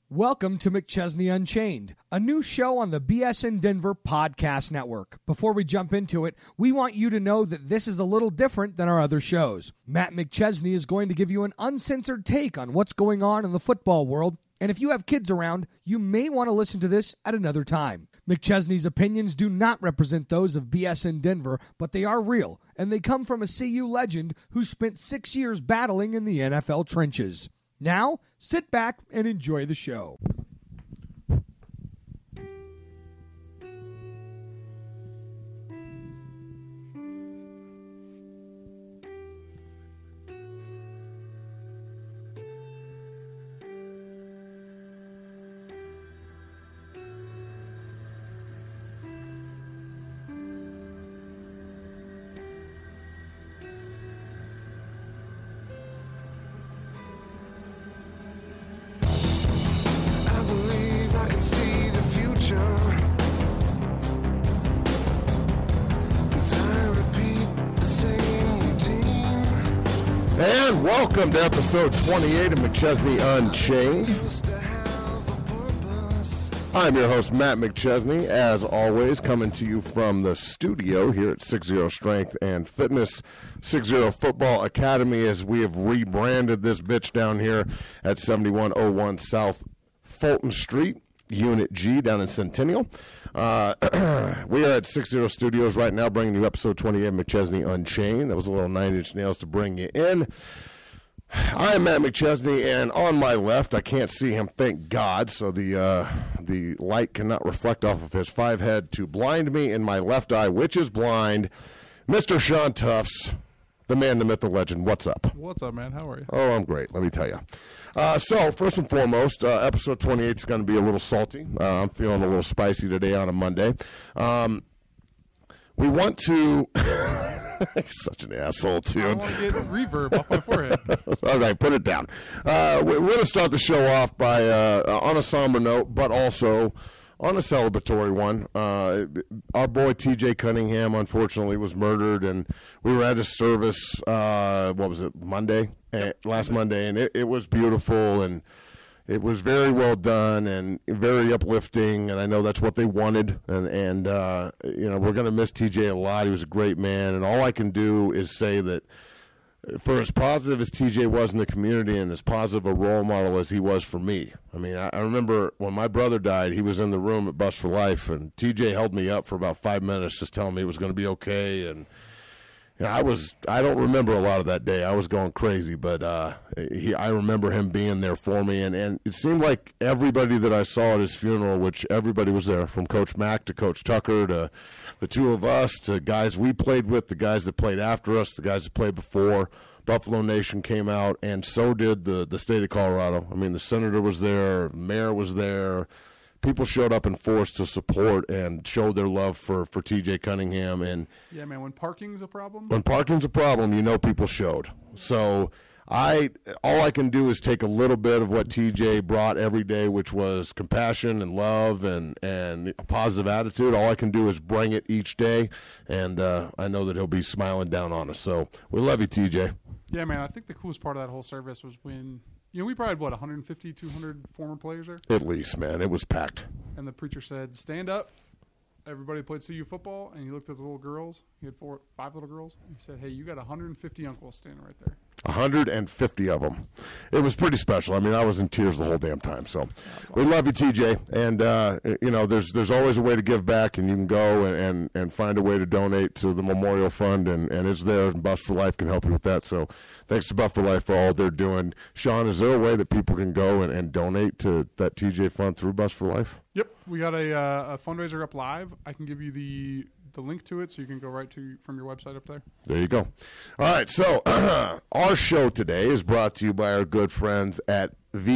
Welcome to McChesney Unchained, a new show on the BSN Denver Podcast Network. Before we jump into it, we want you to know that this is a little different than our other shows. Matt McChesney is going to give you an uncensored take on what's going on in the football world, and if you have kids around, you may want to listen to this at another time. McChesney's opinions do not represent those of BSN Denver, but they are real, and they come from a CU legend who spent 6 years battling in the NFL trenches. Now, sit back and enjoy the show. And welcome to episode 28 of McChesney Unchained. I'm your host, Matt McChesney, as always, coming to you from the studio here at 60 Strength and Fitness, 60 Football Academy, as we have rebranded this bitch down here at 7101 South Fulton Street, Unit G, down in Centennial. We are at 60 Studios right now, bringing you episode 28 of McChesney Unchained. That was a little 9-inch nails to bring you in. I am Matt McChesney, and on my left, I can't see him, thank God, so the light cannot reflect off of his 5 head to blind me in my left eye, which is blind, Mr. Sean Tufts, the man, the myth, the legend. What's up? What's up, man? How are you? Oh, I'm great, let me tell you. So, first and foremost, episode 28 is going to be a little salty. I'm feeling a little spicy today on a Monday. We want to... You're such an asshole, too. I want to get reverb off my forehead. All right, put it down. We're going to start the show off by on a somber note, but also on a celebratory one. Our boy T.J. Cunningham, unfortunately, was murdered, and we were at his service, Monday? Last Monday, and it was beautiful, and it was very well done and very uplifting, and I know that's what they wanted, and we're going to miss TJ a lot. He was a great man, and all I can do is say that for as positive as TJ was in the community and as positive a role model as he was for me. I mean, I remember when my brother died, he was in the room at Bust for Life, and TJ held me up for about 5 minutes just telling me it was going to be okay, and I don't remember a lot of that day. I was going crazy, but I remember him being there for me, and it seemed like everybody that I saw at his funeral, which everybody was there, from Coach Mack to Coach Tucker to the two of us to guys we played with, the guys that played after us, the guys that played before. Buffalo Nation came out, and so did the state of Colorado. I mean, the senator was there, the mayor was there. People showed up in force to support and showed their love for T.J. Cunningham. And yeah, man, when parking's a problem? When parking's a problem, people showed. So all I can do is take a little bit of what T.J. brought every day, which was compassion and love and a positive attitude. All I can do is bring it each day, and I know that he'll be smiling down on us. So we love you, T.J. Yeah, man, I think the coolest part of that whole service was when – we probably had, 150, 200 former players there? At least, man. It was packed. And the preacher said, stand up. Everybody played CU football, and he looked at the little girls. He had 5 little girls. He said, hey, you got 150 uncles standing right there. 150 of them. It was pretty special. I mean, I was in tears the whole damn time. So we love you, TJ. And, there's always a way to give back, and you can go and find a way to donate to the Memorial Fund, and it's there, and Bust for Life can help you with that. So thanks to Bust for Life for all they're doing. Sean, is there a way that people can go and donate to that TJ Fund through Bust for Life? Yep. We got a fundraiser up live. I can give you the link to it so you can go right from your website up there. There you go. All right, so our show today is brought to you by our good friends at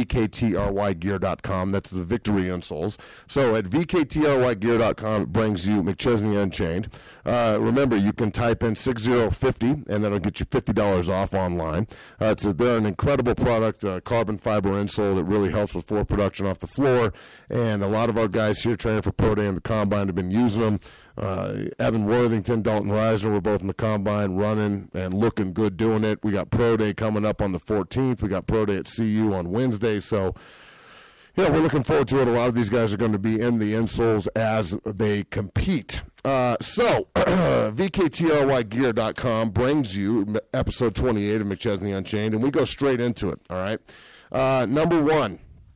VKTRYgear.com. That's the Victory Insoles. So at VKTRYgear.com, it brings you McChesney Unchained. Remember, you can type in 6050, and that'll get you $50 off online. They're an incredible product, carbon fiber insole that really helps with floor production off the floor. And a lot of our guys here training for Pro Day and the Combine have been using them. Evan Worthington, Dalton Reisner were both in the Combine running and looking good doing it. We got Pro Day coming up on the 14th. We got Pro Day at CU on Wednesday. So, Yeah, we're looking forward to it. A lot of these guys are going to be in the insoles as they compete. So, VKTRYgear.com brings you episode 28 of McChesney Unchained, and we go straight into it, all right? Number one,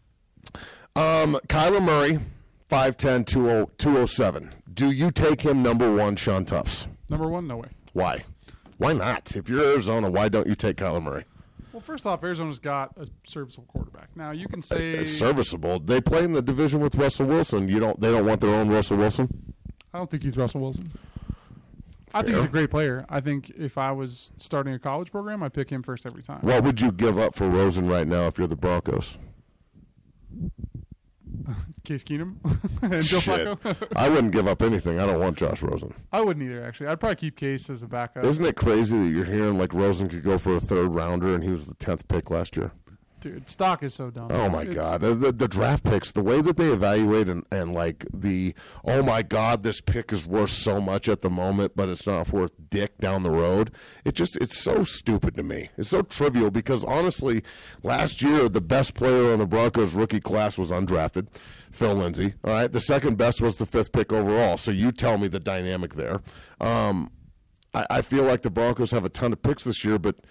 Kyler Murray, 5'10", 207. Do you take him number one, Sean Tufts? Number one, no way. Why? Why not? If you're Arizona, why don't you take Kyler Murray? Well, first off, Arizona's got a serviceable quarterback. Now, you can say It's serviceable. They play in the division with Russell Wilson. They don't want their own Russell Wilson? I don't think he's Russell Wilson. I think he's a great player. I think if I was starting a college program, I'd pick him first every time. What would you give up for Rosen right now if you're the Broncos? Case Keenum and Joe Shit. Flacco. I wouldn't give up anything. I don't want Josh Rosen. I wouldn't either, actually. I'd probably keep Case as a backup. Isn't it crazy that you're hearing like Rosen could go for a third rounder and he was the 10th pick last year? Dude, stock is so dumb. Oh, my God. The draft picks, the way that they evaluate and like oh, my God, this pick is worth so much at the moment, but it's not worth dick down the road. It's so stupid to me. It's so trivial because, honestly, last year, the best player on the Broncos rookie class was undrafted, Phil Lindsay. All right. The second best was the 5th pick overall. So you tell me the dynamic there. I feel like the Broncos have a ton of picks this year, but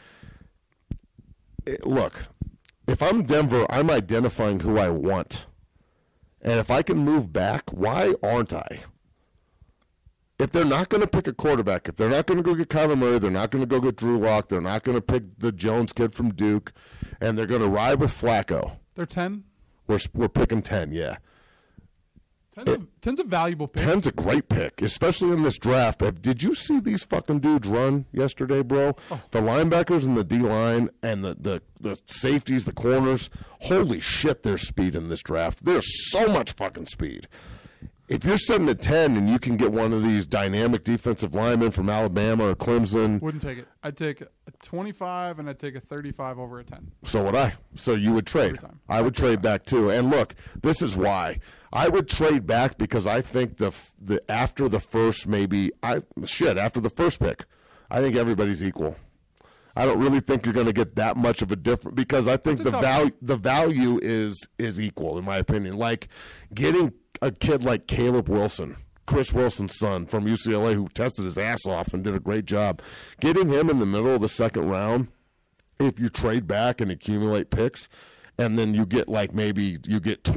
look. If I'm Denver, I'm identifying who I want. And if I can move back, why aren't I? If they're not going to pick a quarterback, if they're not going to go get Kyler Murray, they're not going to go get Drew Lock, they're not going to pick the Jones kid from Duke, and they're going to ride with Flacco. They're 10? We're picking 10, yeah. 10's a valuable pick. 10's a great pick, especially in this draft. Did you see these fucking dudes run yesterday, bro? Oh. The linebackers and the D-line and the safeties, the corners. Holy shit, there's speed in this draft. There's so much fucking speed. If you're sitting at 10 and you can get one of these dynamic defensive linemen from Alabama or Clemson. Wouldn't take it. I'd take a 25 and I'd take a 35 over a 10. So would I. So you would trade. I would trade back too. And look, this is why. I would trade back because I think after the first after the first pick, I think everybody's equal. I don't really think you're going to get that much of a difference because I think the value is equal in my opinion. Like getting a kid like Caleb Wilson, Chris Wilson's son from UCLA, who tested his ass off and did a great job, getting him in the middle of the second round. If you trade back and accumulate picks, and then you get maybe you get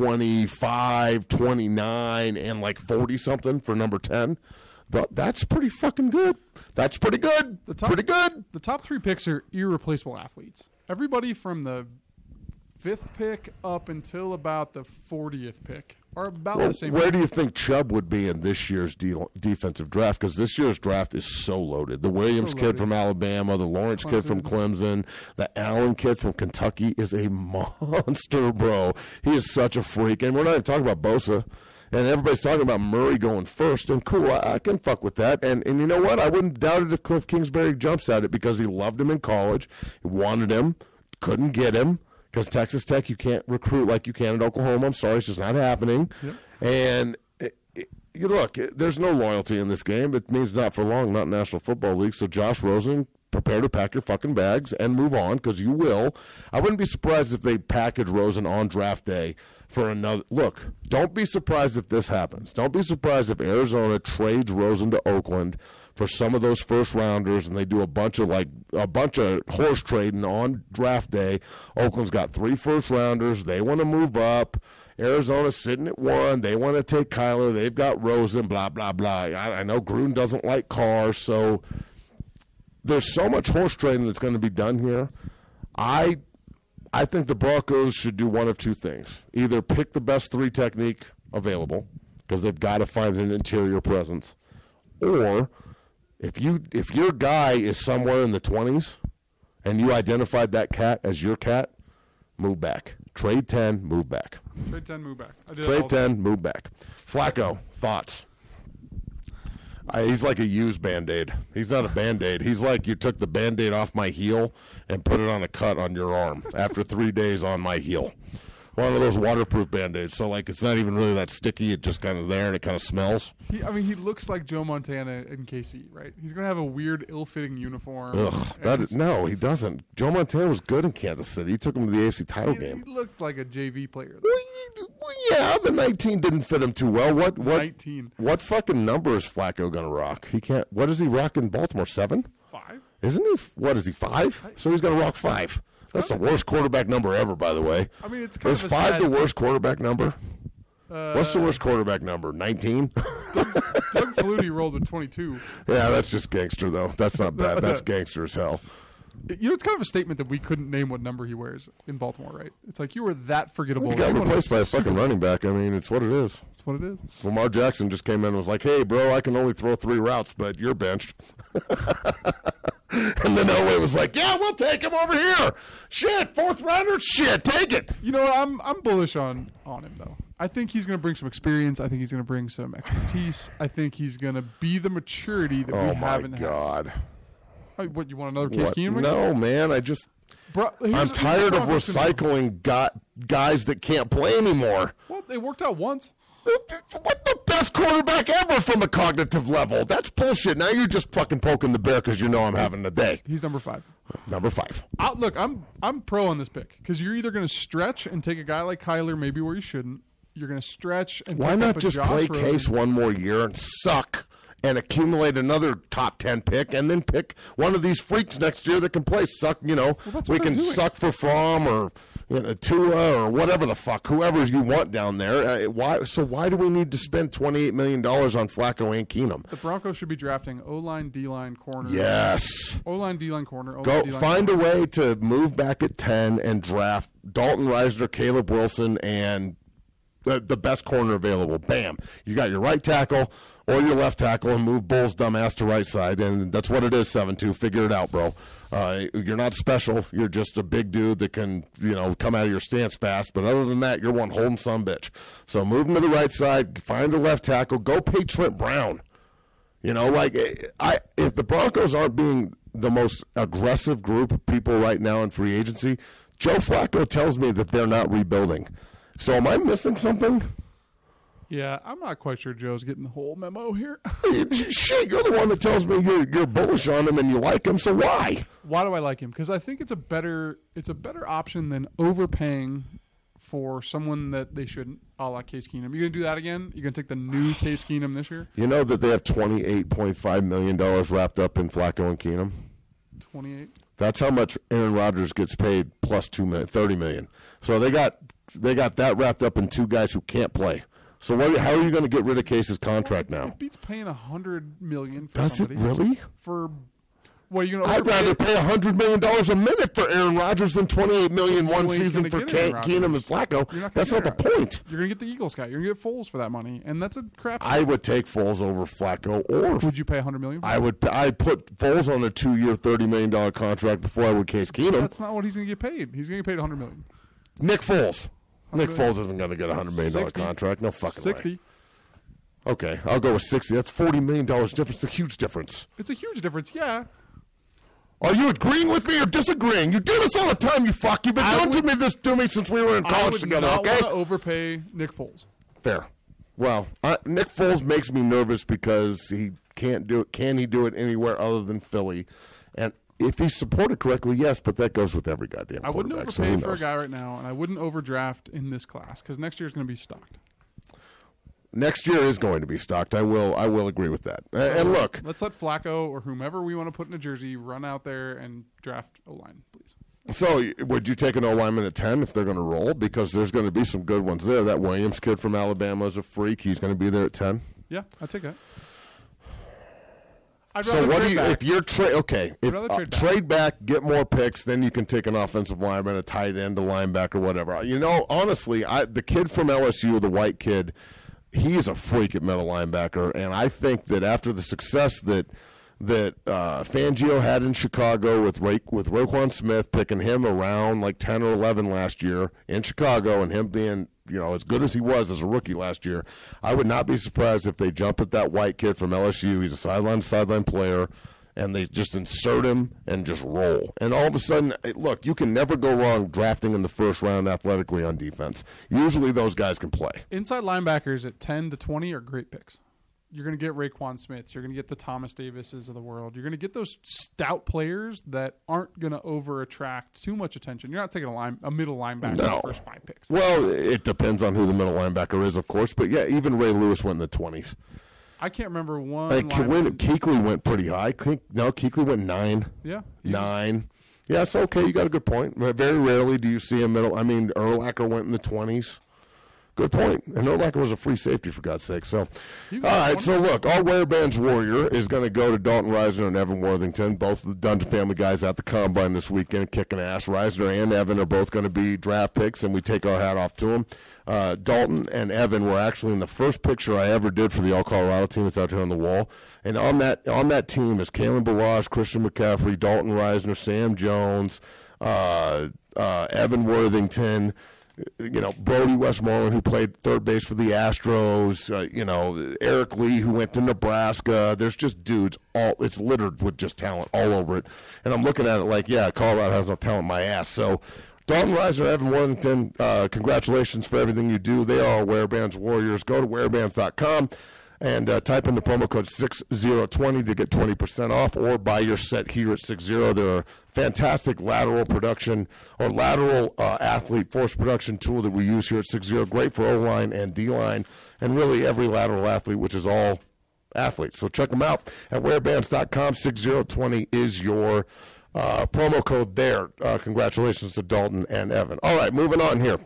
25, 29, and 40-something for number 10. That's pretty fucking good. That's pretty good. Pretty good. The top 3 picks are irreplaceable athletes. Everybody from the 5th pick up until about the 40th pick are about the same. Where do you think Chubb would be in this year's defensive draft? Because this year's draft is so loaded. The Williams kid from Alabama, the Lawrence kid from Clemson, the Allen kid from Kentucky is a monster, bro. He is such a freak. And we're not even talking about Bosa. And everybody's talking about Murray going first. And cool, I can fuck with that. And you know what? I wouldn't doubt it if Cliff Kingsbury jumps at it because he loved him in college. He wanted him, couldn't get him. Because Texas Tech, you can't recruit like you can at Oklahoma. I'm sorry, it's just not happening. Yep. And look, there's no loyalty in this game. It means not for long, not National Football League. So Josh Rosen, prepare to pack your fucking bags and move on because you will. I wouldn't be surprised if they package Rosen on draft day for another. Look, don't be surprised if this happens. Don't be surprised if Arizona trades Rosen to Oakland for some of those first rounders, and they do a bunch of horse trading on draft day. Oakland's got 3 first rounders. They want to move up. Arizona's sitting at 1. They want to take Kyler. They've got Rosen. Blah blah blah. I know Gruden doesn't like cars, so there's so much horse trading that's going to be done here. I think the Broncos should do one of 2 things: either pick the best 3 technique available because they've got to find an interior presence, or if your guy is somewhere in the 20s and you identified that cat as your cat, move back. Trade 10, move back. Trade 10, move back. Trade 10, move back. Flacco, thoughts? He's like a used Band-Aid. He's not a Band-Aid. He's like you took the Band-Aid off my heel and put it on a cut on your arm after 3 days on my heel. One of those waterproof Band-Aids. So, like, it's not even really that sticky. It's just kind of there, and it kind of smells. He looks like Joe Montana in KC, right? He's going to have a weird, ill-fitting uniform. Ugh. No, he doesn't. Joe Montana was good in Kansas City. He took him to the AFC title game. He looked like a JV player. Well, yeah, the 19 didn't fit him too well. What 19. What fucking number is Flacco going to rock? He can't. What does he rock in Baltimore? 7? 5? Isn't he? What is he, 5? So he's going to rock 5. That's the worst quarterback number ever, by the way. I mean, it's kind of Is 5 the worst quarterback number? What's the worst quarterback number? 19? Doug Flutie rolled with 22. Yeah, that's just gangster, though. That's not bad. That's gangster as hell. You know, it's kind of a statement that we couldn't name what number he wears in Baltimore, right? It's like you were that forgettable. He got replaced by a fucking running back. I mean, it's what it is. It's what it is. Lamar Jackson just came in and was like, hey, bro, I can only throw 3 routes, but you're benched. And then Elway was like, yeah, we'll take him over here. Shit, 4th rounder? Shit, take it. You know, I'm bullish on him, though. I think he's going to bring some experience. I think he's going to bring some expertise. I think he's going to be the maturity that we haven't had. Oh, my God. What, you want another Case Keenum? No, man, I'm tired of recycling guys that can't play anymore. Well, they worked out once. What the best quarterback ever from a cognitive level? That's bullshit. Now you're just fucking poking the bear because you know I'm having a day. He's number 5. Number 5. Look, I'm pro on this pick because you're either going to stretch and take a guy like Kyler maybe where you shouldn't. You're going to stretch and why not just play Case one more year and suck and accumulate another top 10 pick and then pick one of these freaks next year that can play suck. You know, we can suck for Fromm or Tua or whatever the fuck, whoever you want down there. Why do we need to spend $28 million on Flacco and Keenum? The Broncos should be drafting O-line, D-line, corner. Yes. O-line, D-line, corner. Go find a way to move back at 10 and draft Dalton Reisner, Caleb Wilson, and the best corner available. Bam. You got your right tackle or your left tackle and move Bull's dumbass to right side. And that's what it is, 7-2. Figure it out, bro. You're not special. You're just a big dude that can, come out of your stance fast. But other than that, you're one holding son bitch. So move him to the right side. Find a left tackle. Go pay Trent Brown. If the Broncos aren't being the most aggressive group of people right now in free agency, Joe Flacco tells me that they're not rebuilding. So am I missing something? Yeah, I'm not quite sure Joe's getting the whole memo here. Shit, you're the one that tells me you're bullish on him and you like him, so why? Why do I like him? Because I think it's a better option than overpaying for someone that they shouldn't, a la Case Keenum. You going to do that again? You going to take the new Case Keenum this year? You know that they have $28.5 million wrapped up in Flacco and Keenum? 28? That's how much Aaron Rodgers gets paid plus $30 million. So they got that wrapped up in 2 guys who can't play. So how are you going to get rid of Case's contract now? It beats paying $100 million for Does somebody. It really? For what are you going to? I'd rather pay $100 million a minute for Aaron Rodgers than $28 million one season for Keenum and Flacco. That's not the point. You're going to get the Eagles guy. You're going to get Foles for that money, and that's a crap. I would take Foles over Flacco, or would you pay $100 million? I'd put Foles on a 2-year, $30 million contract before I would Case Keenum. That's not what he's going to get paid. He's going to get paid $100 million. Nick Foles. Nick Foles isn't going to get a $100 million contract. No fucking 60. way. Okay, I'll go with 60. That's $40 million difference. It's a huge difference. It's a huge difference, yeah. Are you agreeing with me or disagreeing? You do this all the time, you fuck. You've been doing this to me since we were in college together, okay? I would not want to overpay Nick Foles. Fair. Well, Nick Foles makes me nervous because he can't do it. Can he do it anywhere other than Philly? And if he's supported correctly, yes, but that goes with every goddamn quarterback. I wouldn't overpay for a guy right now, and I wouldn't overdraft in this class because next year is going to be stocked. Next year is going to be stocked. I will agree with that. And look, let's let Flacco or whomever we want to put in a jersey run out there and draft O-line, please. So would you take an O-lineman at 10 if they're going to roll? Because there's going to be some good ones there. That Williams kid from Alabama is a freak. He's going to be there at 10. Yeah, I'd take that. So what do you? If you're trade back, get more picks, then you can take an offensive lineman, a tight end, a linebacker, whatever. Honestly, the kid from LSU, the white kid, he is a freak at middle linebacker, and I think that after the success that Fangio had in Chicago with Roquan Smith, picking him around like 10 or 11 last year in Chicago, and him being as good as he was as a rookie last year, I would not be surprised if they jump at that white kid from LSU. He's a sideline player, and they just insert him and just roll. And all of a sudden, look, you can never go wrong drafting in the first round athletically on defense. Usually those guys can play. Inside linebackers at 10 to 20 are great picks. You're going to get Raekwon Smiths. You're going to get the Thomas Davises of the world. You're going to get those stout players that aren't going to over-attract too much attention. You're not taking a middle linebacker in the first 5 picks. Well, it depends on who the middle linebacker is, of course. But, yeah, even Ray Lewis went in the 20s. I can't remember one. Kuechly went pretty high. Kuechly went 9. Yeah. 9. Yeah, it's okay. You got a good point. Very rarely do you see a middle. I mean, Urlacher went in the 20s. Good point. And Urlacher was a free safety, for God's sake. So, all right. So, look, our Werebands Warrior is going to go to Dalton Reisner and Evan Worthington, both of the Dungeon Family guys at the Combine this weekend, kicking ass. Reisner and Evan are both going to be draft picks, and we take our hat off to them. Dalton and Evan were actually in the first picture I ever did for the All-Colorado team. It's out here on the wall. And on that team is Kalen Ballage, Christian McCaffrey, Dalton Reisner, Sam Jones, Evan Worthington, Brody Westmoreland, who played third base for the Astros, Eric Lee, who went to Nebraska. There's just dudes. It's littered with just talent all over it. And I'm looking at it like, yeah, Colorado has no talent in my ass. So Dalton Reisner, Evan Worthington, congratulations for everything you do. They are Werebands Warriors. Go to werebands.com and type in the promo code 6020 to get 20% off, or buy your set here at 60. They're a fantastic lateral production or lateral athlete force production tool that we use here at 60. Great for O-line and D-line and really every lateral athlete, which is all athletes. So check them out at werebands.com. 6020 is your promo code there. Congratulations to Dalton and Evan. All right, moving on here.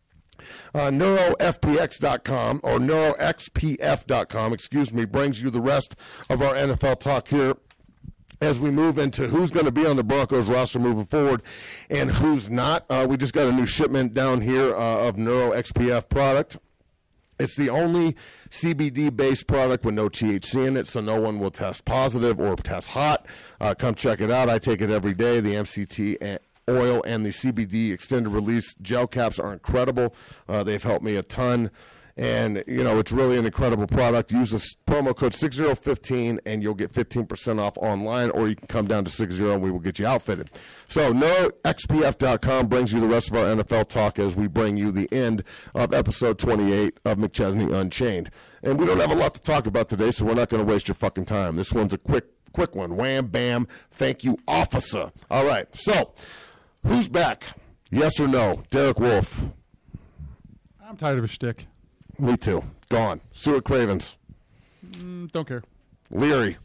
NeuroFPX.com or NeuroXPF.com, brings you the rest of our NFL talk here as we move into who's going to be on the Broncos roster moving forward and who's not. We just got a new shipment down here of NeuroXPF product. It's the only CBD-based product with no THC in it, so no one will test positive or test hot. Come check it out. I take it every day. The MCT oil and the CBD extended release gel caps are incredible. They've helped me a ton. And, it's really an incredible product. Use the promo code 6015 and you'll get 15% off online, or you can come down to 60 and we will get you outfitted. So, NeuroXPF.com brings you the rest of our NFL talk as we bring you the end of episode 28 of McChesney Unchained. And we don't have a lot to talk about today, so we're not going to waste your fucking time. This one's a quick one. Wham, bam, thank you, officer. All right, so who's back? Yes or no? Derek Wolfe. I'm tired of his shtick. Me too. Gone. Stuart Cravens. Don't care. Leary.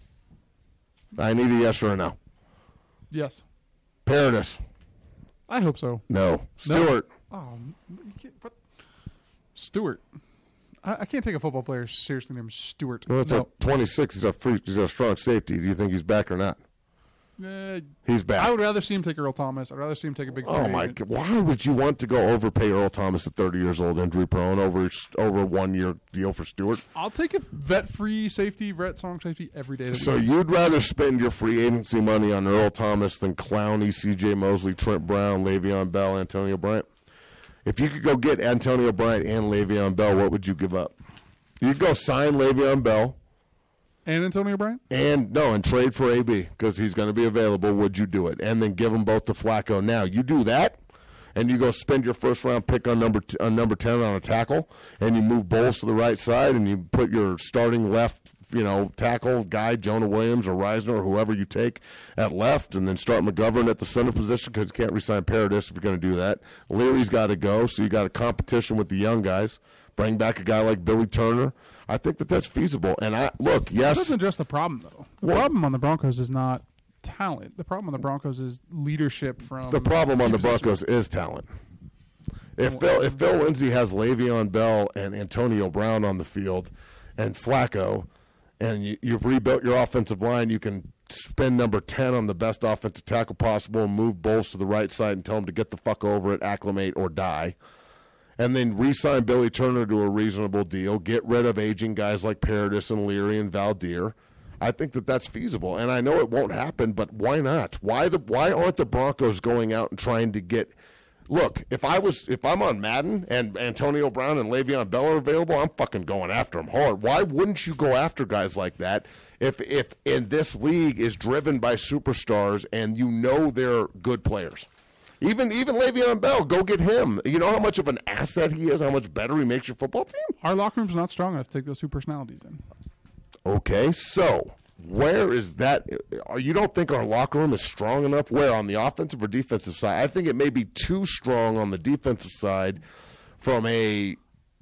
I need a yes or a no. Yes. Paradis. I hope so. No. Stewart. No. Oh, you can't. What? Stewart. I can't take a football player seriously named Stewart. Well, it's a 26. He's a strong safety. Do you think he's back or not? He's back. I would rather see him take Earl Thomas. I'd rather see him take a big. Oh my God! Why would you want to go overpay Earl Thomas at 30 years old, injury prone, over a 1 year deal for Stewart? I'll take a vet-free safety, strong safety every day. So you'd rather spend your free agency money on Earl Thomas than Clowney, C.J. Mosley, Trent Brown, Le'Veon Bell, Antonio Bryant? If you could go get Antonio Bryant and Le'Veon Bell, what would you give up? You'd go sign Le'Veon Bell. And Antonio Bryant? And trade for AB because he's going to be available. Would you do it? And then give them both to Flacco. Now, you do that, and you go spend your first-round pick on number 10 on a tackle, and you move Bowles to the right side, and you put your starting left tackle guy, Jonah Williams or Reisner or whoever you take at left, and then start McGovern at the center position because you can't re-sign Paradis if you're going to do that. Leary's got to go, so you got a competition with the young guys. Bring back a guy like Billy Turner. I think that's feasible. And yes. That doesn't address the problem, though. The problem on the Broncos is not talent. The problem on the Broncos is leadership from. The problem on the Broncos is talent. If Phil Lindsay has Le'Veon Bell and Antonio Brown on the field and Flacco, and you've rebuilt your offensive line, you can spend number 10 on the best offensive tackle possible and move Bowles to the right side and tell him to get the fuck over it, acclimate, or die. And then re-sign Billy Turner to a reasonable deal. Get rid of aging guys like Paradis and Leary and Valdir. I think that's feasible. And I know it won't happen, but why not? Why aren't the Broncos going out and trying to get look, if I'm on Madden and Antonio Brown and Le'Veon Bell are available, I'm fucking going after them hard. Why wouldn't you go after guys like that if in this league is driven by superstars and you know they're good players? Even Le'Veon Bell, go get him. You know how much of an asset he is, how much better he makes your football team? Our locker room's not strong enough to take those two personalities in. Okay, so where is that? You don't think our locker room is strong enough? Where, on the offensive or defensive side? I think it may be too strong on the defensive side from a...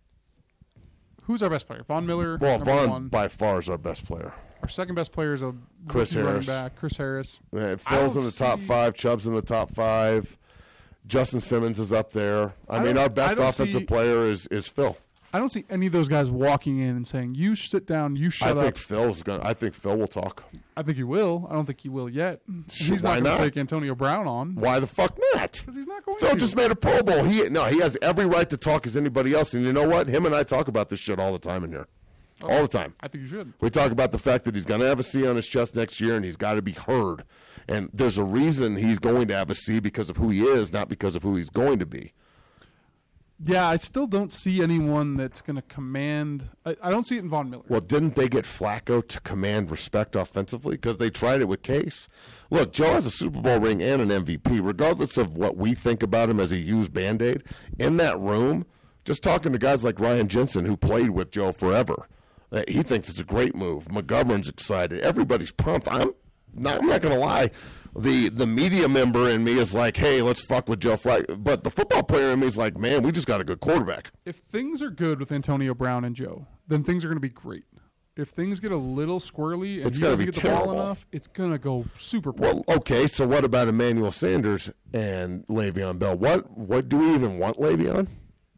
Who's our best player? Von Miller? Well, Von one. by far is our best player. Our second best player is a Chris running Harris. back, Chris Harris. Phil's in the top 5. Chubb's in the top 5. Justin Simmons is up there. I mean, our best offensive player is Phil. I don't see any of those guys walking in and saying, "You sit down, you shut up." I think Phil will talk. I think he will. I don't think he will yet. He's Why not going not? to take Antonio Brown on. Why the fuck not? Because he's not going Phil to. just made a Pro Bowl. He has every right to talk as anybody else. And you know what? Him and I talk about this shit all the time in here. All the time. I think you should. We talk about the fact that he's going to have a C on his chest next year and he's got to be heard. And there's a reason he's going to have a C because of who he is, not because of who he's going to be. Yeah, I still don't see anyone that's going to command. I don't see it in Von Miller. Well, didn't they get Flacco to command respect offensively? Because they tried it with Case. Look, Joe has a Super Bowl ring and an MVP. Regardless of what we think about him as a used Band-Aid, in that room, just talking to guys like Ryan Jensen, who played with Joe forever, he thinks it's a great move. McGovern's excited. Everybody's pumped. I'm not going to lie. The media member in me is like, hey, let's fuck with Joe Flacco. But the football player in me is like, man, we just got a good quarterback. If things are good with Antonio Brown and Joe, then things are going to be great. If things get a little squirrely and he doesn't get the ball enough, it's going to go super poor. Well, okay, so what about Emmanuel Sanders and Le'Veon Bell? What do we even want Le'Veon?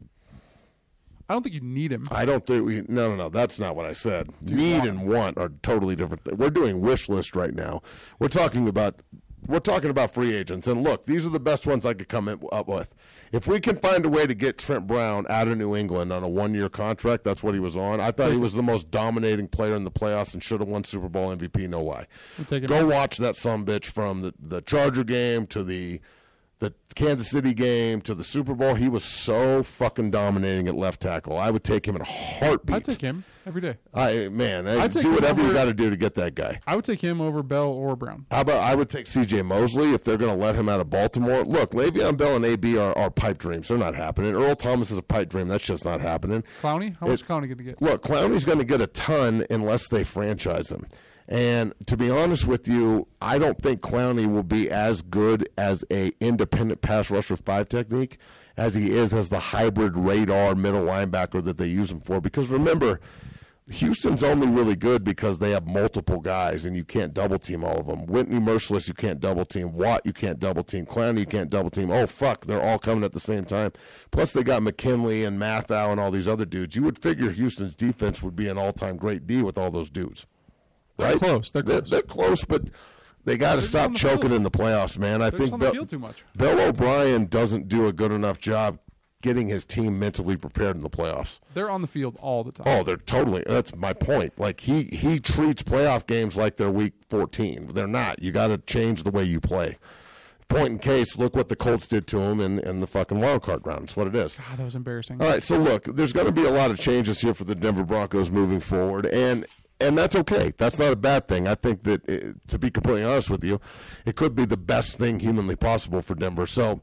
I don't think you need him. I don't think we. No. That's not what I said. Need and want are totally different. We're doing wish list right now. We're talking about free agents. And look, these are the best ones I could come up with. If we can find a way to get Trent Brown out of New England on a 1-year contract, that's what he was on. I thought he was the most dominating player in the playoffs and should have won Super Bowl MVP. No lie. Go watch that sumbitch from the Charger game to the Kansas City game to the Super Bowl. He was so fucking dominating at left tackle. I would take him in a heartbeat. I'd take him every day. I'd do whatever you got to do to get that guy. I would take him over Bell or Brown. How about I would take C.J. Mosley if they're going to let him out of Baltimore. Look, Le'Veon Bell and A.B. are pipe dreams. They're not happening. Earl Thomas is a pipe dream. That's just not happening. Clowney? How much is Clowney going to get? Look, Clowney's going to get a ton unless they franchise him. And to be honest with you, I don't think Clowney will be as good as a independent pass rusher 5 technique as he is as the hybrid radar middle linebacker that they use him for. Because remember, Houston's only really good because they have multiple guys and you can't double team all of them. Whitney Merciless, you can't double team. Watt, you can't double team. Clowney, you can't double team. Oh, fuck, they're all coming at the same time. Plus they got McKinley and Mathau and all these other dudes. You would figure Houston's defense would be an all-time great D with all those dudes. They're close. They're close, but they got to stop choking in the playoffs, man. I think too much. Bill O'Brien doesn't do a good enough job getting his team mentally prepared in the playoffs. They're on the field all the time. Oh, they're totally. That's my point. Like he treats playoff games like they're week 14. They're not. You got to change the way you play. Point in case, look what the Colts did to him in the fucking wild card round. That's what it is. God, that was embarrassing. All right, so look, there's going to be a lot of changes here for the Denver Broncos moving forward, and that's okay. That's not a bad thing. I think that, to be completely honest with you, it could be the best thing humanly possible for Denver. So,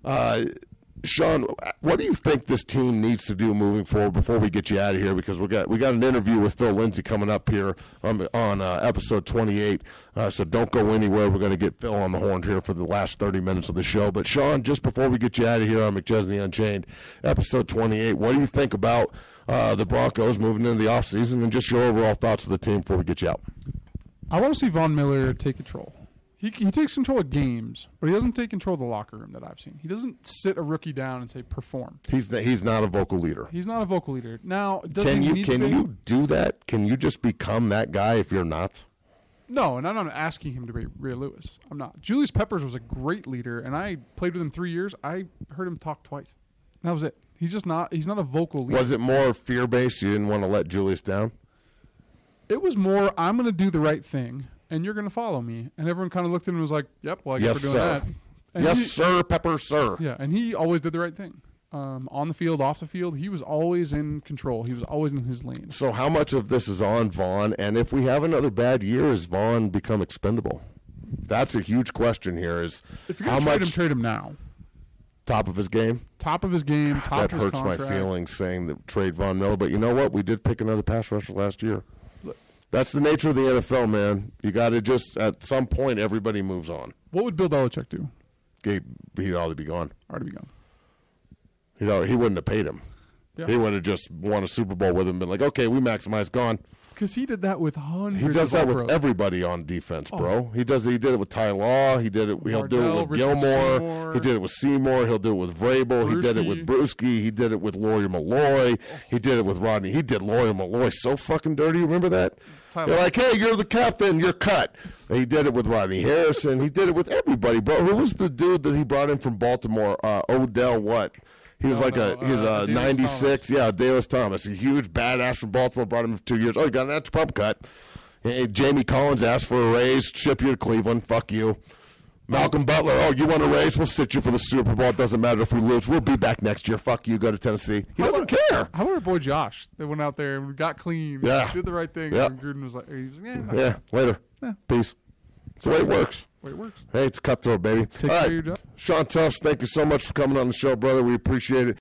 Sean, what do you think this team needs to do moving forward before we get you out of here? Because we got an interview with Phil Lindsay coming up here on episode 28. So don't go anywhere. We're going to get Phil on the horn here for the last 30 minutes of the show. But Sean, just before we get you out of here on McChesney Unchained, episode 28, what do you think about the Broncos moving into the offseason and just your overall thoughts of the team before we get you out? I want to see Von Miller take control. He takes control of games, but he doesn't take control of the locker room that I've seen. He doesn't sit a rookie down and say, perform. He's not a vocal leader. He's not a vocal leader. Now, can you do that? Can you just become that guy if you're not? No, and I'm not asking him to be Ray Lewis. I'm not. Julius Peppers was a great leader, and I played with him 3 years. I heard him talk twice. And that was it. He's not a vocal leader. Was it more fear-based? You didn't want to let Julius down? It was more, I'm going to do the right thing, and you're going to follow me. And everyone kind of looked at him and was like, yep, well, I guess we're doing that. And yes, sir, Pepper, sir. Yeah, and he always did the right thing. On the field, off the field, he was always in control. He was always in his lane. So how much of this is on Vaughn? And if we have another bad year, has Vaughn become expendable? That's a huge question here. Is if you're going to trade him now. Top of his game? Top of his game, top of his contract. That hurts my feelings saying that trade Von Miller. But you know what? We did pick another pass rusher last year. That's the nature of the NFL, man. You got to just, at some point, everybody moves on. What would Bill Belichick do? He'd already be gone. Already be gone. He wouldn't have paid him. Yeah. He would have just won a Super Bowl with him and been like, okay, we maximized, gone. Because he did that with hundreds. He does that with everybody on defense, bro. He did it with Ty Law. He'll do it with Gilmore. Seymour. He did it with Seymour. He'll do it with Vrabel. He did it with Brewski. He did it with Lawyer Malloy. He did it with Rodney. He did Lawyer Malloy so fucking dirty. Remember that? They're like, hey, you're the captain. You're cut. And he did it with Rodney Harrison. He did it with everybody, bro. Who was the dude that he brought in from Baltimore? Odell what? He was he's a 96. Yeah, Dallas Thomas. A huge badass from Baltimore. Brought him for 2 years. Oh, he got an extra pump cut. Hey, Jamie Collins asked for a raise. Ship you to Cleveland. Fuck you. Malcolm Butler. Oh, you want a raise? We'll sit you for the Super Bowl. It doesn't matter if we lose. We'll be back next year. Fuck you. Go to Tennessee. He doesn't care. How about our boy Josh? They went out there and got clean. Yeah. Did the right thing. Yeah. And Gruden was like, later. Yeah. Peace. That's the way it works. Hey, it's cutthroat, baby. Take care of your job. Sean Tufts, thank you so much for coming on the show, brother. We appreciate it.